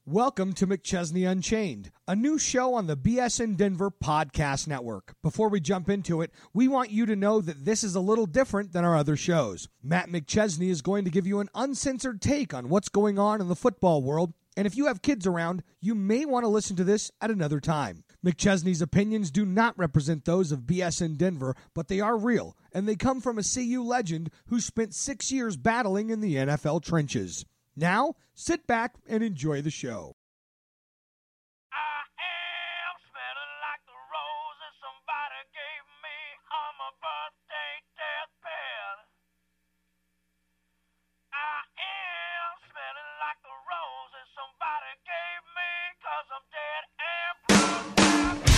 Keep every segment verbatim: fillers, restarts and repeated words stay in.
Welcome to McChesney Unchained, a new show on the B S in Denver podcast network. Before we jump into it, we want you to know that this is a little different than our other shows. Matt McChesney is going to give you an uncensored take on what's going on in the football world, and if you have kids around, you may want to listen to this at another time. McChesney's opinions do not represent those of B S in Denver, but they are real, and they come from a C U legend who spent six years battling in the N F L trenches. Now, sit back and enjoy the show. I am smelling like the roses somebody gave me on my birthday deathbed. I am smelling like the roses somebody gave me 'cause I'm dead and broke.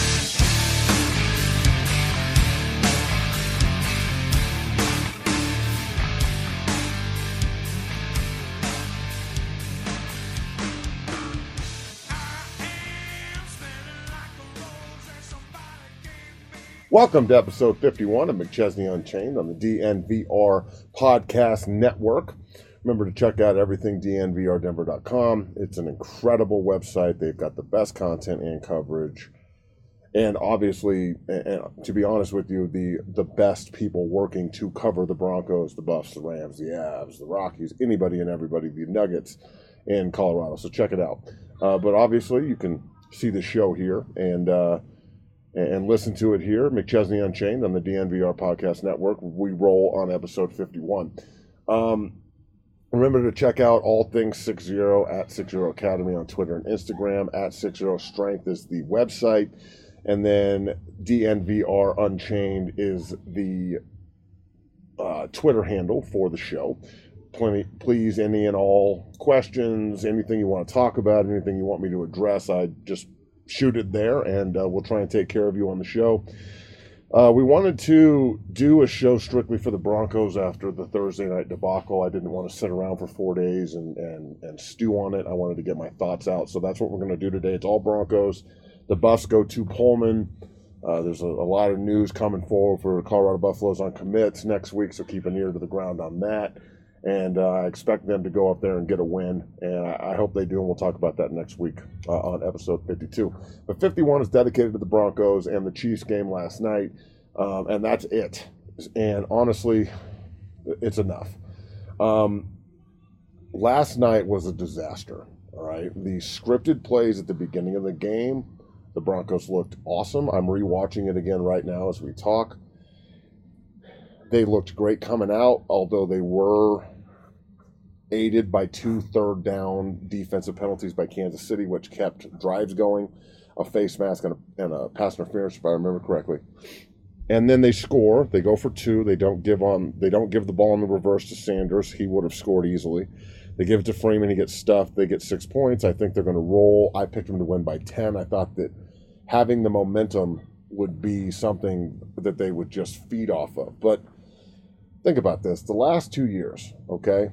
Welcome to episode fifty-one of McChesney Unchained on the D N V R Podcast Network. Remember to check out everything D N V R Denver dot com. It's an incredible website. They've got the best content and coverage. And obviously, and to be honest with you, the, the best people working to cover the Broncos, the Buffs, the Rams, the Avs, the Rockies, anybody and everybody, the Nuggets in Colorado. So check it out. Uh, but obviously, you can see the show here and uh, and listen to it here, McChesney Unchained on the D N V R Podcast Network. We roll on episode fifty-one. Um, remember to check out all things six zero at six zero Academy on Twitter and Instagram. At six zero Strength is the website. And then D N V R Unchained is the uh, Twitter handle for the show. Plenty, please, any and all questions, anything you want to talk about, anything you want me to address, I just shoot it there, and uh, we'll try and take care of you on the show. Uh, we wanted to do a show strictly for the Broncos after the Thursday night debacle. I didn't want to sit around for four days and, and, and stew on it. I wanted to get my thoughts out, so that's what we're going to do today. It's all Broncos. The Buffs go to Pullman. Uh, there's a, a lot of news coming forward for Colorado Buffaloes on commits next week, so keep an ear to the ground on that. And uh, I expect them to go up there and get a win, and I, I hope they do, and we'll talk about that next week uh, on episode fifty-two. But fifty-one is dedicated to the Broncos and the Chiefs game last night, um, and that's it. And honestly, it's enough. Um, last night was a disaster, all right? The scripted plays at the beginning of the game, the Broncos looked awesome. I'm rewatching it again right now as we talk. They looked great coming out, although they were aided by two third down defensive penalties by Kansas City, which kept drives going, a face mask and a, and a pass interference, if I remember correctly. And then they score. They go for two. They don't give on. They don't give the ball in the reverse to Sanders. He would have scored easily. They give it to Freeman. He gets stuffed. They get six points. I think they're going to roll. I picked them to win by ten. I thought that having the momentum would be something that they would just feed off of. But think about this. The last two years, okay?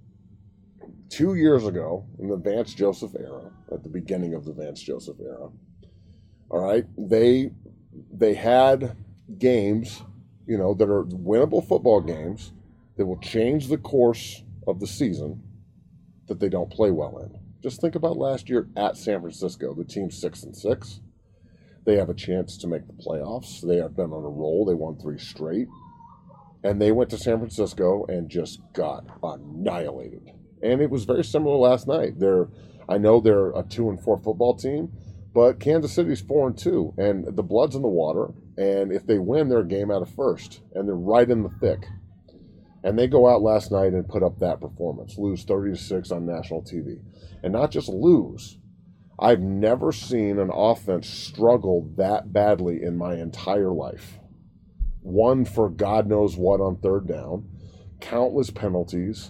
Two years ago, in the Vance Joseph era, at the beginning of the Vance Joseph era, all right, they they had games, you know, that are winnable football games that will change the course of the season that they don't play well in. Just think about last year at San Francisco. The team's six and six. They have a chance to make the playoffs. They have been on a roll. They won three straight. And they went to San Francisco and just got annihilated. And it was very similar last night. They're, I know they're a two and four football team, but Kansas City's four and two, and the blood's in the water. And if they win, they're a game out of first, and they're right in the thick. And they go out last night and put up that performance, lose thirty to six on national T V, and not just lose. I've never seen an offense struggle that badly in my entire life. One for God knows what on third down, countless penalties,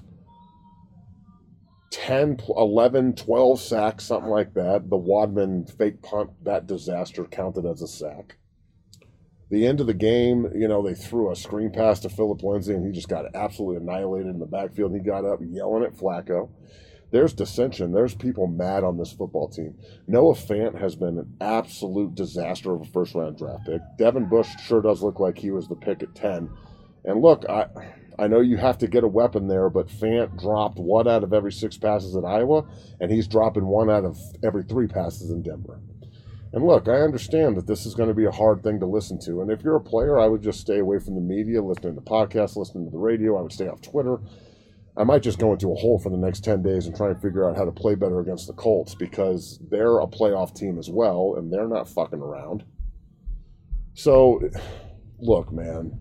ten, eleven, twelve sacks, something like that. The Wadman fake punt, that disaster counted as a sack. The end of the game, you know, they threw a screen pass to Phillip Lindsay, and he just got absolutely annihilated in the backfield. He got up yelling at Flacco. There's dissension. There's people mad on this football team. Noah Fant has been an absolute disaster of a first-round draft pick. Devin Bush sure does look like he was the pick at ten. And look, I I know you have to get a weapon there, but Fant dropped one out of every six passes at Iowa, and he's dropping one out of every three passes in Denver. And look, I understand that this is going to be a hard thing to listen to. And if you're a player, I would just stay away from the media, listening to podcasts, listening to the radio. I would stay off Twitter. I might just go into a hole for the next ten days and try and figure out how to play better against the Colts, because they're a playoff team as well, and they're not fucking around. So, look, man,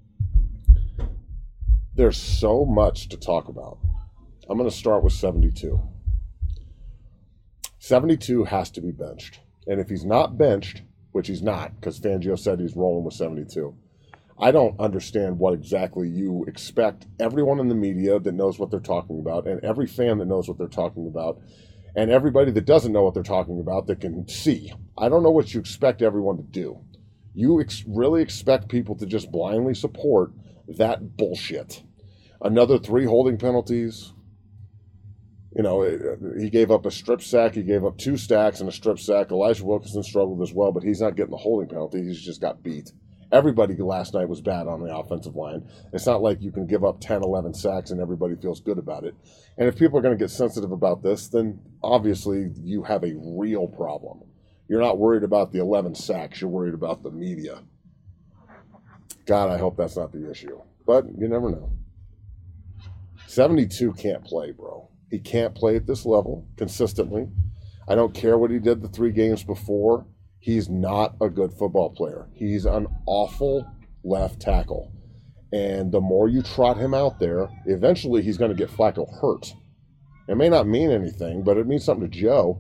there's so much to talk about. I'm going to start with seventy-two. seventy-two has to be benched. And if he's not benched, which he's not, because Fangio said he's rolling with seventy-two, I don't understand what exactly you expect everyone in the media that knows what they're talking about, and every fan that knows what they're talking about, and everybody that doesn't know what they're talking about that can see. I don't know what you expect everyone to do. You ex- really expect people to just blindly support that bullshit. Another three holding penalties. You know, he gave up a strip sack. He gave up two stacks and a strip sack. Elijah Wilkinson struggled as well, but he's not getting the holding penalty. He's just got beat. Everybody last night was bad on the offensive line. It's not like you can give up ten, eleven sacks and everybody feels good about it. And if people are going to get sensitive about this, then obviously you have a real problem. You're not worried about the eleven sacks. You're worried about the media. God, I hope that's not the issue. But you never know. seventy-two can't play, bro. He can't play at this level consistently. I don't care what he did the three games before. He's not a good football player. He's an awful left tackle. And the more you trot him out there, eventually he's going to get Flacco hurt. It may not mean anything, but it means something to Joe.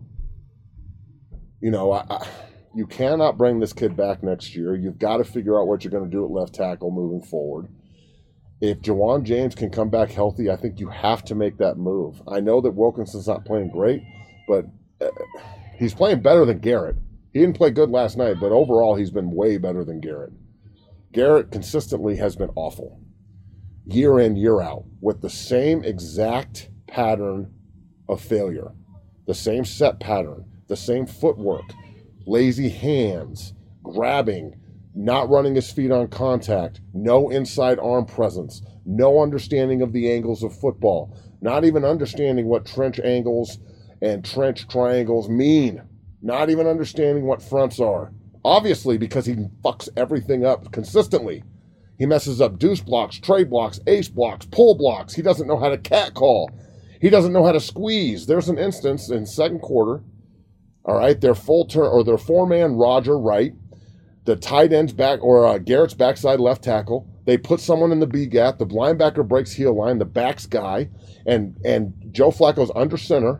You know, I, I, you cannot bring this kid back next year. You've got to figure out what you're going to do at left tackle moving forward. If Jawan James can come back healthy, I think you have to make that move. I know that Wilkinson's not playing great, but uh, he's playing better than Garrett. He didn't play good last night, but overall he's been way better than Garrett. Garrett consistently has been awful, year in, year out, with the same exact pattern of failure, the same set pattern, the same footwork, lazy hands, grabbing, not running his feet on contact, no inside arm presence, no understanding of the angles of football, not even understanding what trench angles and trench triangles mean, not even understanding what fronts are. Obviously, because he fucks everything up consistently. He messes up deuce blocks, trade blocks, ace blocks, pull blocks. He doesn't know how to catcall. He doesn't know how to squeeze. There's an instance in second quarter, all right, their full turn or their four-man Roger right, the tight end's back, or uh, Garrett's backside left tackle. They put someone in the B gap. The linebacker breaks heel line, the back's guy, and and Joe Flacco's under center.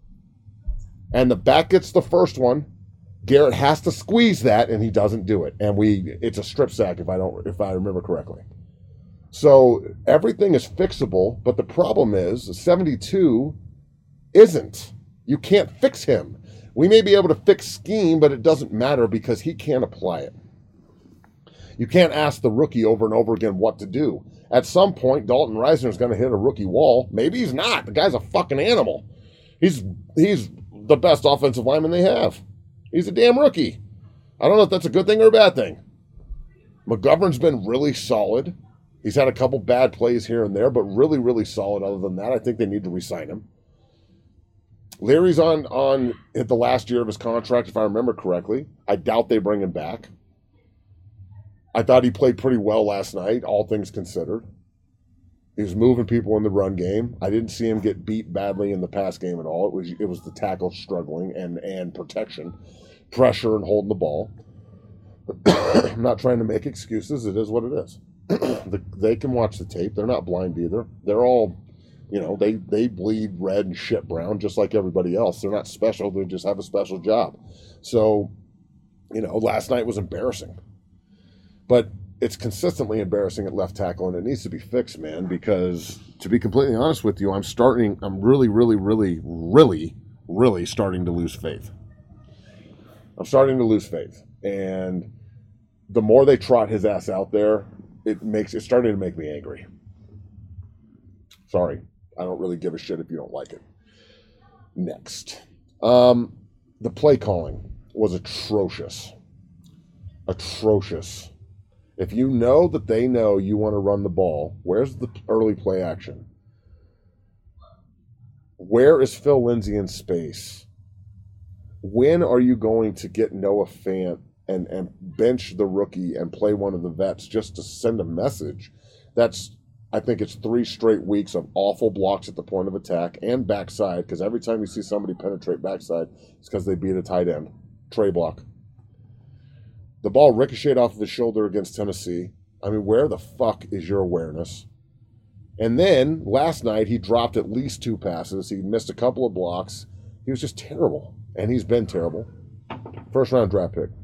And the back gets the first one. Garrett has to squeeze that, and he doesn't do it. And we it's a strip sack if I don't if I remember correctly. So everything is fixable, but the problem is seventy-two isn't. You can't fix him. We may be able to fix scheme, but it doesn't matter because he can't apply it. You can't ask the rookie over and over again what to do. At some point, Dalton Reisner is going to hit a rookie wall. Maybe he's not. The guy's a fucking animal. He's he's the best offensive lineman they have. He's a damn rookie. I don't know if that's a good thing or a bad thing. McGovern's been really solid. He's had a couple bad plays here and there, but really, really solid. Other than that, I think they need to re-sign him. Leary's on, on hit the last year of his contract, if I remember correctly. I doubt they bring him back. I thought he played pretty well last night, all things considered. He was moving people in the run game. I didn't see him get beat badly in the pass game at all. It was it was the tackle struggling and, and protection, pressure and holding the ball. I'm not trying to make excuses. It is what it is. the, they can watch the tape. They're not blind either. They're all... You know, they, they bleed red and shit brown just like everybody else. They're not special. They just have a special job. So, you know, last night was embarrassing. But it's consistently embarrassing at left tackle, and it needs to be fixed, man, because to be completely honest with you, I'm starting, I'm really, really, really, really, really starting to lose faith. I'm starting to lose faith. And the more they trot his ass out there, it makes it's starting to make me angry. Sorry. I don't really give a shit if you don't like it. Next. Um, the play calling was atrocious. Atrocious. If you know that they know you want to run the ball, where's the early play action? Where is Phil Lindsay in space? When are you going to get Noah Fant and, and bench the rookie and play one of the vets just to send a message? That's, I think it's three straight weeks of awful blocks at the point of attack and backside, because every time you see somebody penetrate backside, it's because they beat a tight end. Tray block. The ball ricocheted off of his shoulder against Tennessee. I mean, where the fuck is your awareness? And then last night he dropped at least two passes. He missed a couple of blocks. He was just terrible. And he's been terrible. First round draft pick.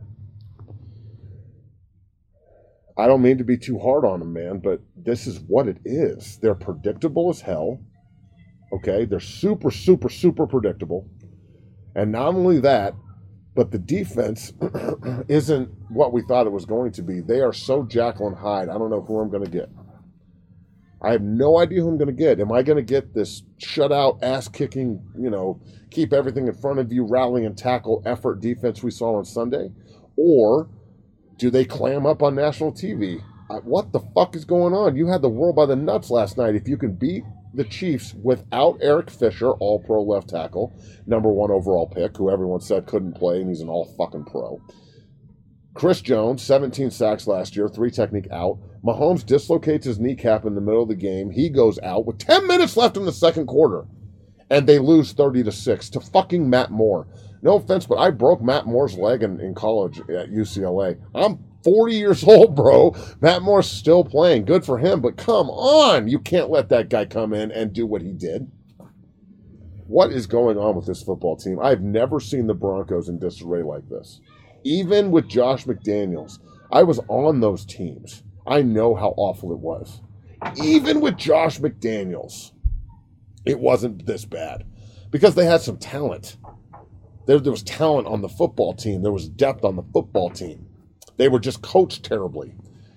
I don't mean to be too hard on him, man, but this is what it is. They're predictable as hell. Okay? They're super, super, super predictable. And not only that, but the defense isn't what we thought it was going to be. They are so Jekyll and Hyde. I don't know who I'm going to get. I have no idea who I'm going to get. Am I going to get this shutout, ass-kicking, you know, keep everything in front of you, rally and tackle effort defense we saw on Sunday? Or do they clam up on national T V? I, what the fuck is going on? You had the world by the nuts last night. If you can beat the Chiefs without Eric Fisher, all-pro left tackle, number one overall pick, who everyone said couldn't play, and he's an all-fucking-pro. Chris Jones, seventeen sacks last year, three technique out. Mahomes dislocates his kneecap in the middle of the game. He goes out with ten minutes left in the second quarter. And they lose thirty to six to fucking Matt Moore. No offense, but I broke Matt Moore's leg in, in college at U C L A. I'm forty years old, bro. Matt Moore's still playing. Good for him, but come on. You can't let that guy come in and do what he did. What is going on with this football team? I've never seen the Broncos in disarray like this. Even with Josh McDaniels, I was on those teams. I know how awful it was. Even with Josh McDaniels, it wasn't this bad because they had some talent. There, there was talent on the football team. There was depth on the football team. They were just coached terribly.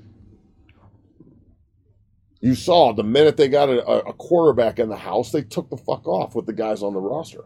You saw the minute they got a, a quarterback in the house, they took the fuck off with the guys on the roster.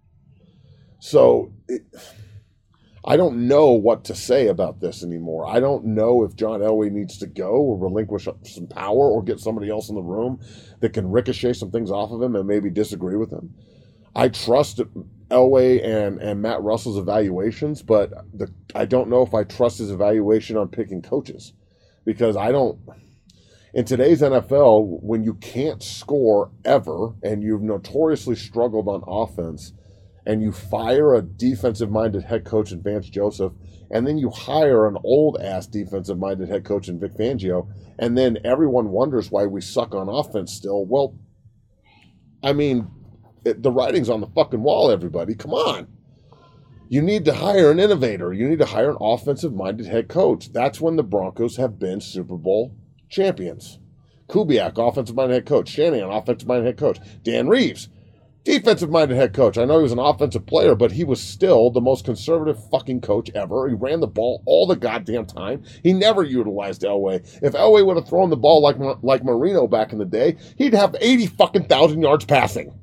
So it, I don't know what to say about this anymore. I don't know if John Elway needs to go or relinquish some power or get somebody else in the room that can ricochet some things off of him and maybe disagree with him. I trust Elway and, and Matt Russell's evaluations, but the, I don't know if I trust his evaluation on picking coaches because I don't. In today's N F L, when you can't score ever and you've notoriously struggled on offense, and you fire a defensive-minded head coach in Vance Joseph, and then you hire an old-ass defensive-minded head coach in Vic Fangio, and then everyone wonders why we suck on offense still. Well, I mean, it, the writing's on the fucking wall, everybody. Come on. You need to hire an innovator. You need to hire an offensive-minded head coach. That's when the Broncos have been Super Bowl champions. Kubiak, offensive-minded head coach. Shanahan, offensive-minded head coach. Dan Reeves, defensive-minded head coach. I know he was an offensive player, but he was still the most conservative fucking coach ever. He ran the ball all the goddamn time. He never utilized Elway. If Elway would have thrown the ball like like Marino back in the day, he'd have eighty fucking thousand yards passing.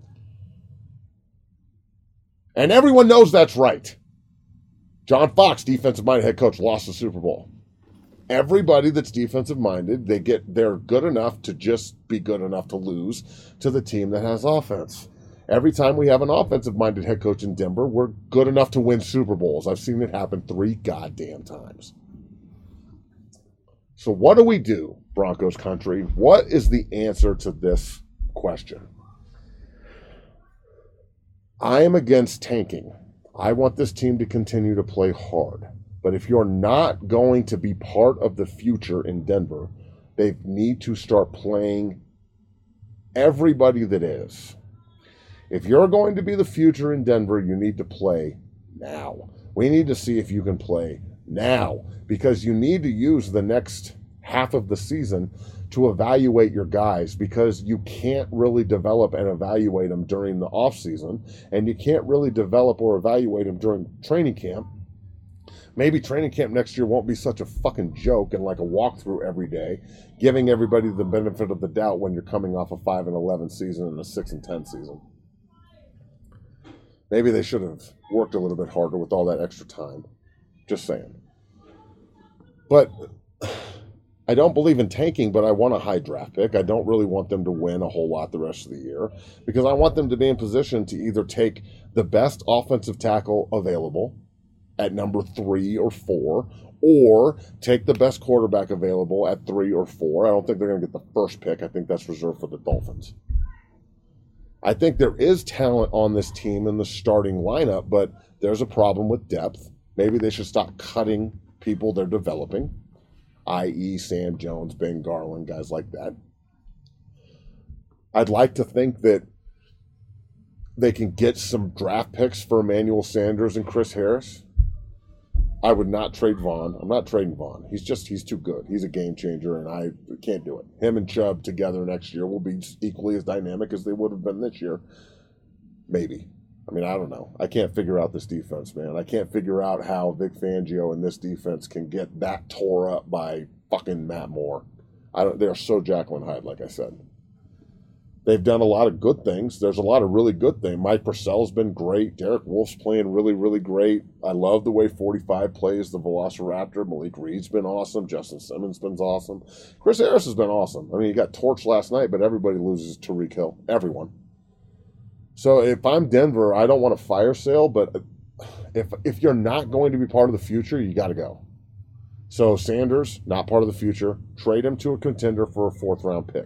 And everyone knows that's right. John Fox, defensive-minded head coach, lost the Super Bowl. Everybody that's defensive-minded, they get they're good enough to just be good enough to lose to the team that has offense. Every time we have an offensive-minded head coach in Denver, we're good enough to win Super Bowls. I've seen it happen three goddamn times. So what do we do, Broncos country? What is the answer to this question? I am against tanking. I want this team to continue to play hard. But if you're not going to be part of the future in Denver, they need to start playing everybody that is. If you're going to be the future in Denver, you need to play now. We need to see if you can play now because you need to use the next half of the season to evaluate your guys because you can't really develop and evaluate them during the offseason, and you can't really develop or evaluate them during training camp. Maybe training camp next year won't be such a fucking joke and like a walkthrough every day, giving everybody the benefit of the doubt when you're coming off a five and eleven season and a six and ten season. Maybe they should have worked a little bit harder with all that extra time. Just saying. But I don't believe in tanking, but I want a high draft pick. I don't really want them to win a whole lot the rest of the year because I want them to be in position to either take the best offensive tackle available at number three or four, or take the best quarterback available at three or four. I don't think they're going to get the first pick. I think that's reserved for the Dolphins. I think there is talent on this team in the starting lineup, but there's a problem with depth. Maybe they should stop cutting people they're developing, that is. Sam Jones, Ben Garland, guys like that. I'd like to think that they can get some draft picks for Emmanuel Sanders and Chris Harris. I would not trade Vaughn. I'm not trading Vaughn. He's just, he's too good. He's a game changer, and I can't do it. Him and Chubb together next year will be equally as dynamic as they would have been this year. Maybe. I mean, I don't know. I can't figure out this defense, man. I can't figure out how Vic Fangio and this defense can get that tore up by fucking Matt Moore. I don't. They're so Jekyll and Hyde, like I said. They've done a lot of good things. There's a lot of really good things. Mike Purcell's been great. Derek Wolf's playing really, really great. I love the way forty-five plays the Velociraptor. Malik Reed's been awesome. Justin Simmons been awesome. Chris Harris has been awesome. I mean, he got torched last night, but everybody loses to Tyreek Hill. Everyone. So if I'm Denver, I don't want a fire sale, but if if you're not going to be part of the future, you got to go. So Sanders, not part of the future. Trade him to a contender for a fourth-round pick.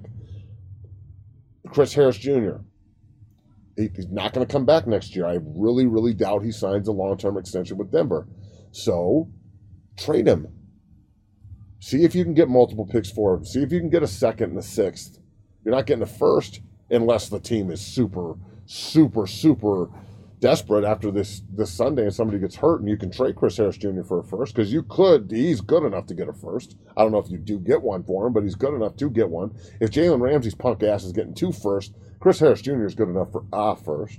Chris Harris Junior He, he's not going to come back next year. I really, really doubt he signs a long-term extension with Denver. So trade him. See if you can get multiple picks for him. See if you can get a second and a sixth. You're not getting a first unless the team is super, super, super desperate after this, this Sunday and somebody gets hurt and you can trade Chris Harris Junior for a first because you could. He's good enough to get a first. I don't know if you do get one for him, but he's good enough to get one. If Jalen Ramsey's punk ass is getting two first, Chris Harris Junior is good enough for a first.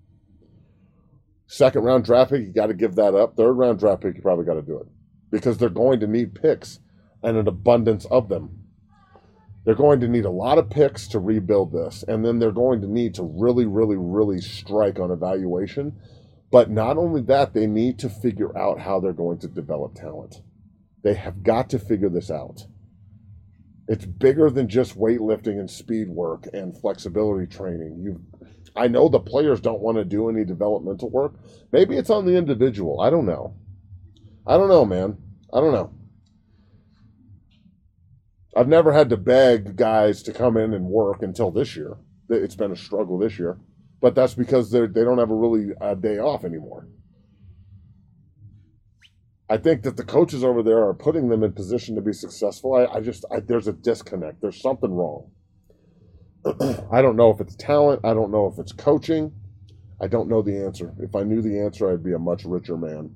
Second round draft pick, you got to give that up. Third round draft pick, you probably got to do it because they're going to need picks and an abundance of them. They're going to need a lot of picks to rebuild this, and then they're going to need to really, really, really strike on evaluation. But not only that, they need to figure out how they're going to develop talent. They have got to figure this out. It's bigger than just weightlifting and speed work and flexibility training. You, I know the players don't want to do any developmental work. Maybe it's on the individual. I don't know. I don't know, man. I don't know. I've never had to beg guys to come in and work until this year. It's been a struggle this year. But that's because they they don't have a really a day off anymore. I think that the coaches over there are putting them in position to be successful. I, I just, I, there's a disconnect. There's something wrong. I don't know if it's talent. I don't know if it's coaching. I don't know the answer. If I knew the answer, I'd be a much richer man.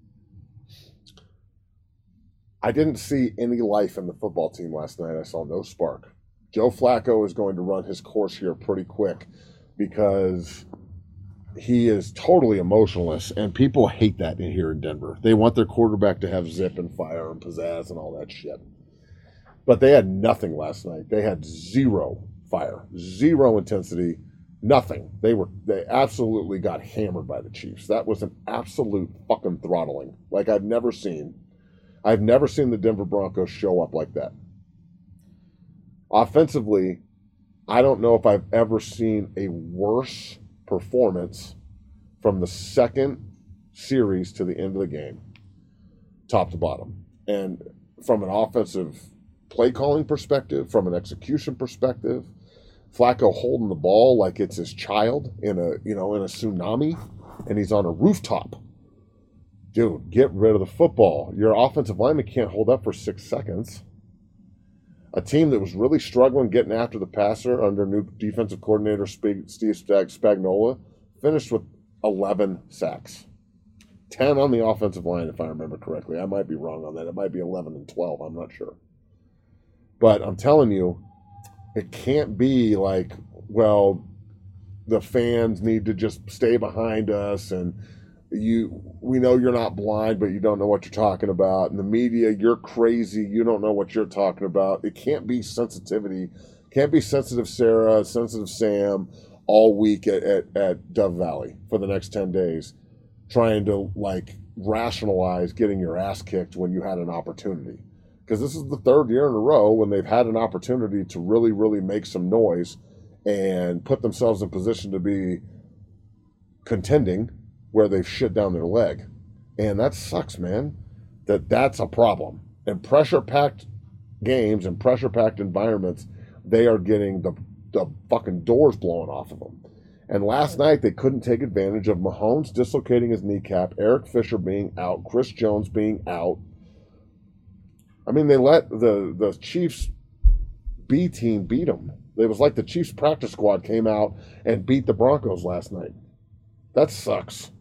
I didn't see any life in the football team last night. I saw no spark. Joe Flacco is going to run his course here pretty quick because he is totally emotionless, and people hate that in here in Denver. They want their quarterback to have zip and fire and pizzazz and all that shit. But they had nothing last night. They had zero fire, zero intensity, nothing. They were they absolutely got hammered by the Chiefs. That was an absolute fucking throttling like I've never seen. I've never seen the Denver Broncos show up like that. Offensively, I don't know if I've ever seen a worse performance from the second series to the end of the game, top to bottom. And from an offensive play calling perspective, from an execution perspective, Flacco holding the ball like it's his child in a, you know, in a tsunami, and he's on a rooftop. Dude, get rid of the football. Your offensive lineman can't hold up for six seconds. A team that was really struggling getting after the passer under new defensive coordinator Steve Spagnuolo finished with eleven sacks. ten on the offensive line, if I remember correctly. I might be wrong on that. It might be eleven and twelve. I'm not sure. But I'm telling you, it can't be like, well, the fans need to just stay behind us and you we know you're not blind, but you don't know what you're talking about. In the media, you're crazy. You don't know what you're talking about. It can't be sensitivity. Can't be sensitive Sarah, sensitive Sam all week at, at, at Dove Valley for the next ten days, trying to like rationalize getting your ass kicked when you had an opportunity. because this is the third year in a row when they've had an opportunity to really, really make some noise and put themselves in position to be contending where they've shit down their leg. And that sucks, man. That that's a problem. And pressure-packed games and pressure-packed environments, they are getting the, the fucking doors blown off of them. And last night, they couldn't take advantage of Mahomes dislocating his kneecap, Eric Fisher being out, Chris Jones being out. I mean, they let the, the Chiefs B team beat them. It was like the Chiefs practice squad came out and beat the Broncos last night. That sucks.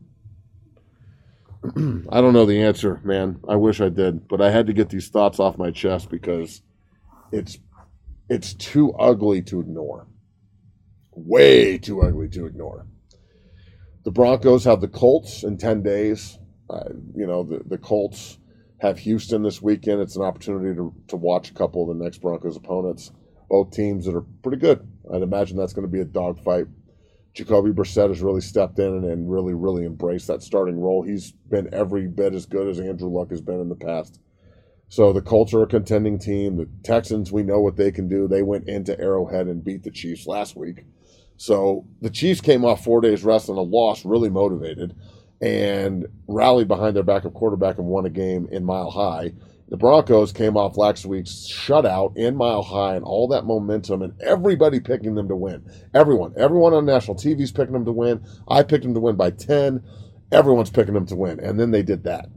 I don't know the answer, man. I wish I did, but I had to get these thoughts off my chest because it's it's too ugly to ignore. Way too ugly to ignore. The Broncos have the Colts in ten days. Uh, you know, the, the Colts have Houston this weekend. It's an opportunity to, to watch a couple of the next Broncos opponents. Both teams that are pretty good. I'd imagine that's going to be a dogfight. Jacoby Brissett has really stepped in and, and really, really embraced that starting role. He's been every bit as good as Andrew Luck has been in the past. So the Colts are a contending team. The Texans, we know what they can do. They went into Arrowhead and beat the Chiefs last week. So the Chiefs came off four days rest and a loss, really motivated, and rallied behind their backup quarterback and won a game in Mile High. The Broncos came off last week's shutout in Mile High and all that momentum and everybody picking them to win. Everyone. Everyone on national T V is picking them to win. I picked them to win by ten. Everyone's picking them to win. And then they did that.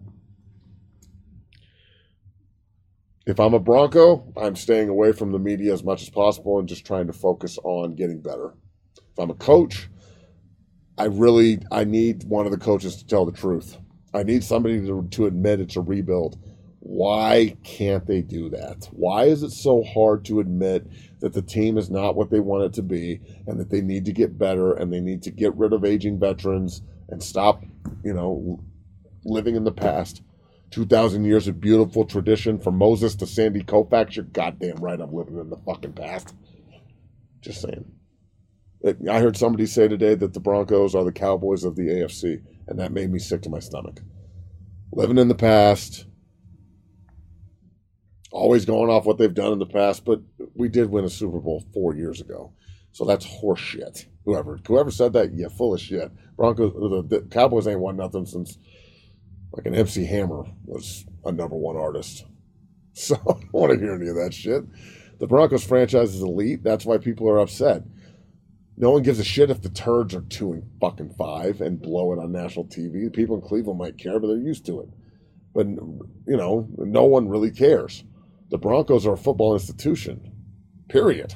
If I'm a Bronco, I'm staying away from the media as much as possible and just trying to focus on getting better. If I'm a coach, I really, I need one of the coaches to tell the truth. I need somebody to, to admit it's a rebuild. Why can't they do that? Why is it so hard to admit that the team is not what they want it to be and that they need to get better and they need to get rid of aging veterans and stop, you know, living in the past? two thousand years of beautiful tradition from Moses to Sandy Koufax. You're goddamn right I'm living in the fucking past. Just saying. I heard somebody say today that the Broncos are the Cowboys of the A F C, and that made me sick to my stomach. Living in the past, always going off what they've done in the past, but we did win a Super Bowl four years ago. So that's horse shit. Whoever whoever said that, yeah, full of shit. Broncos, the, the Cowboys ain't won nothing since like an M C Hammer was a number one artist. So I don't want to hear any of that shit. The Broncos franchise is elite. That's why people are upset. No one gives a shit if the Turds are two and fucking five and blow it on national T V. People in Cleveland might care, but they're used to it. But, you know, no one really cares. The Broncos are a football institution, period.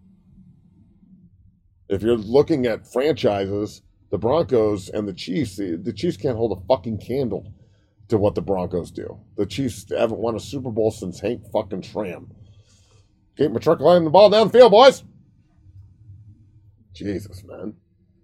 If you're looking at franchises, the Broncos and the Chiefs, the, the Chiefs can't hold a fucking candle to what the Broncos do. The Chiefs haven't won a Super Bowl since Hank fucking Schramm. Keep matriculating the ball down the field, boys. Jesus, man.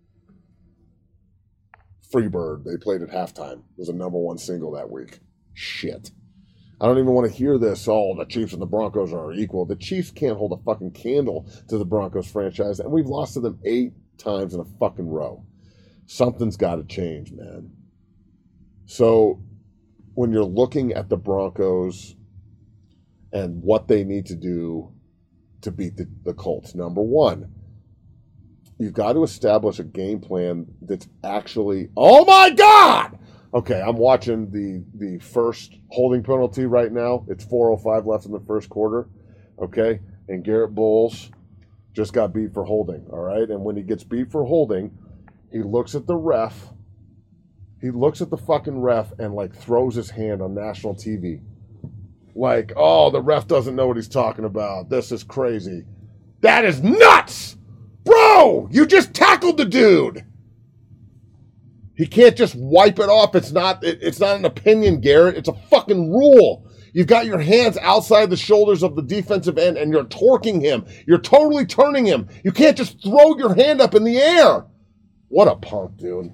Freebird, they played at halftime. It was a number one single that week. Shit. I don't even want to hear this. Oh, the Chiefs and the Broncos are equal. The Chiefs can't hold a fucking candle to the Broncos franchise, and we've lost to them eight times in a fucking row. Something's got to change, man. So when you're looking at the Broncos and what they need to do to beat the, the Colts, number one, you've got to establish a game plan that's actually, oh my God! Okay, I'm watching the, the first holding penalty right now. It's four oh five left in the first quarter, okay? And Garrett Bowles just got beat for holding, all right? And when he gets beat for holding, he looks at the ref. He looks at the fucking ref and, like, throws his hand on national T V. Like, oh, the ref doesn't know what he's talking about. This is crazy. That is nuts! Bro, you just tackled the dude. He can't just wipe it off. It's not it, it's not an opinion, Garrett. It's a fucking rule. You've got your hands outside the shoulders of the defensive end and you're torquing him. You're totally turning him. You can't just throw your hand up in the air. What a punk, dude.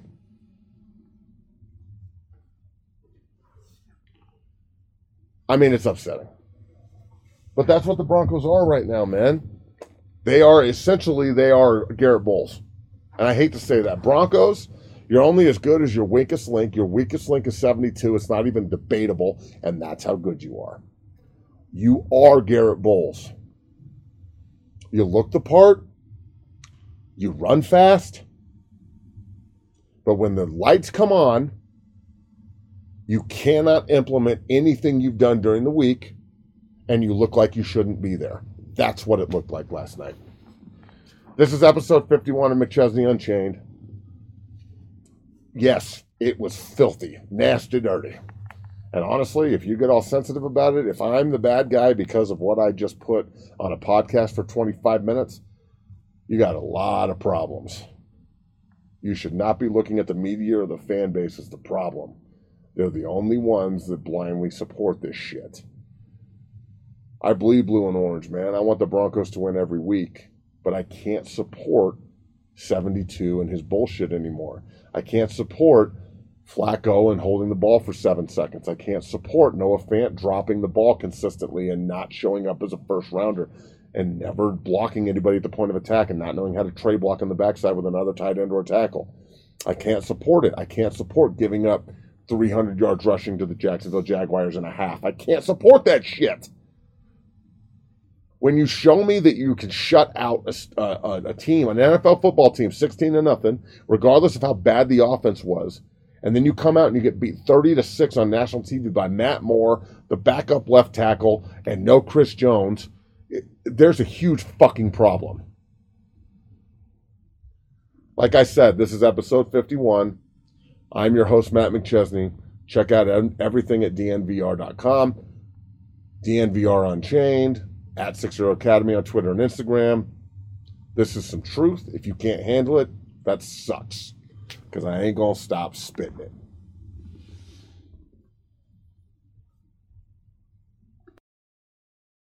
I mean, it's upsetting. But that's what the Broncos are right now, man. They are essentially, they are Garrett Bowles. And I hate to say that. Broncos, you're only as good as your weakest link. Your weakest link is seventy-two. It's not even debatable. And that's how good you are. You are Garrett Bowles. You look the part. You run fast. But when the lights come on, you cannot implement anything you've done during the week, and you look like you shouldn't be there. That's what it looked like last night. This is episode fifty-one of McChesney Unchained. Yes, it was filthy, nasty, dirty. And honestly, if you get all sensitive about it, if I'm the bad guy because of what I just put on a podcast for twenty-five minutes, you got a lot of problems. You should not be looking at the media or the fan base as the problem. They're the only ones that blindly support this shit. I bleed blue and orange, man. I want the Broncos to win every week, but I can't support seventy-two and his bullshit anymore. I can't support Flacco and holding the ball for seven seconds. I can't support Noah Fant dropping the ball consistently and not showing up as a first rounder and never blocking anybody at the point of attack and not knowing how to trade block on the backside with another tight end or a tackle. I can't support it. I can't support giving up three hundred yards rushing to the Jacksonville Jaguars in a half. I can't support that shit. When you show me that you can shut out a, a, a team, an N F L football team, sixteen to nothing, regardless of how bad the offense was, and then you come out and you get beat thirty to six on national T V by Matt Moore, the backup left tackle, and no Chris Jones, it, there's a huge fucking problem. Like I said, this is episode fifty-one. I'm your host, Matt McChesney. Check out everything at D N V R dot com, D N V R Unchained, at Six Zero Academy on Twitter and Instagram. This is some truth. If you can't handle it, that sucks. Because I ain't going to stop spitting it.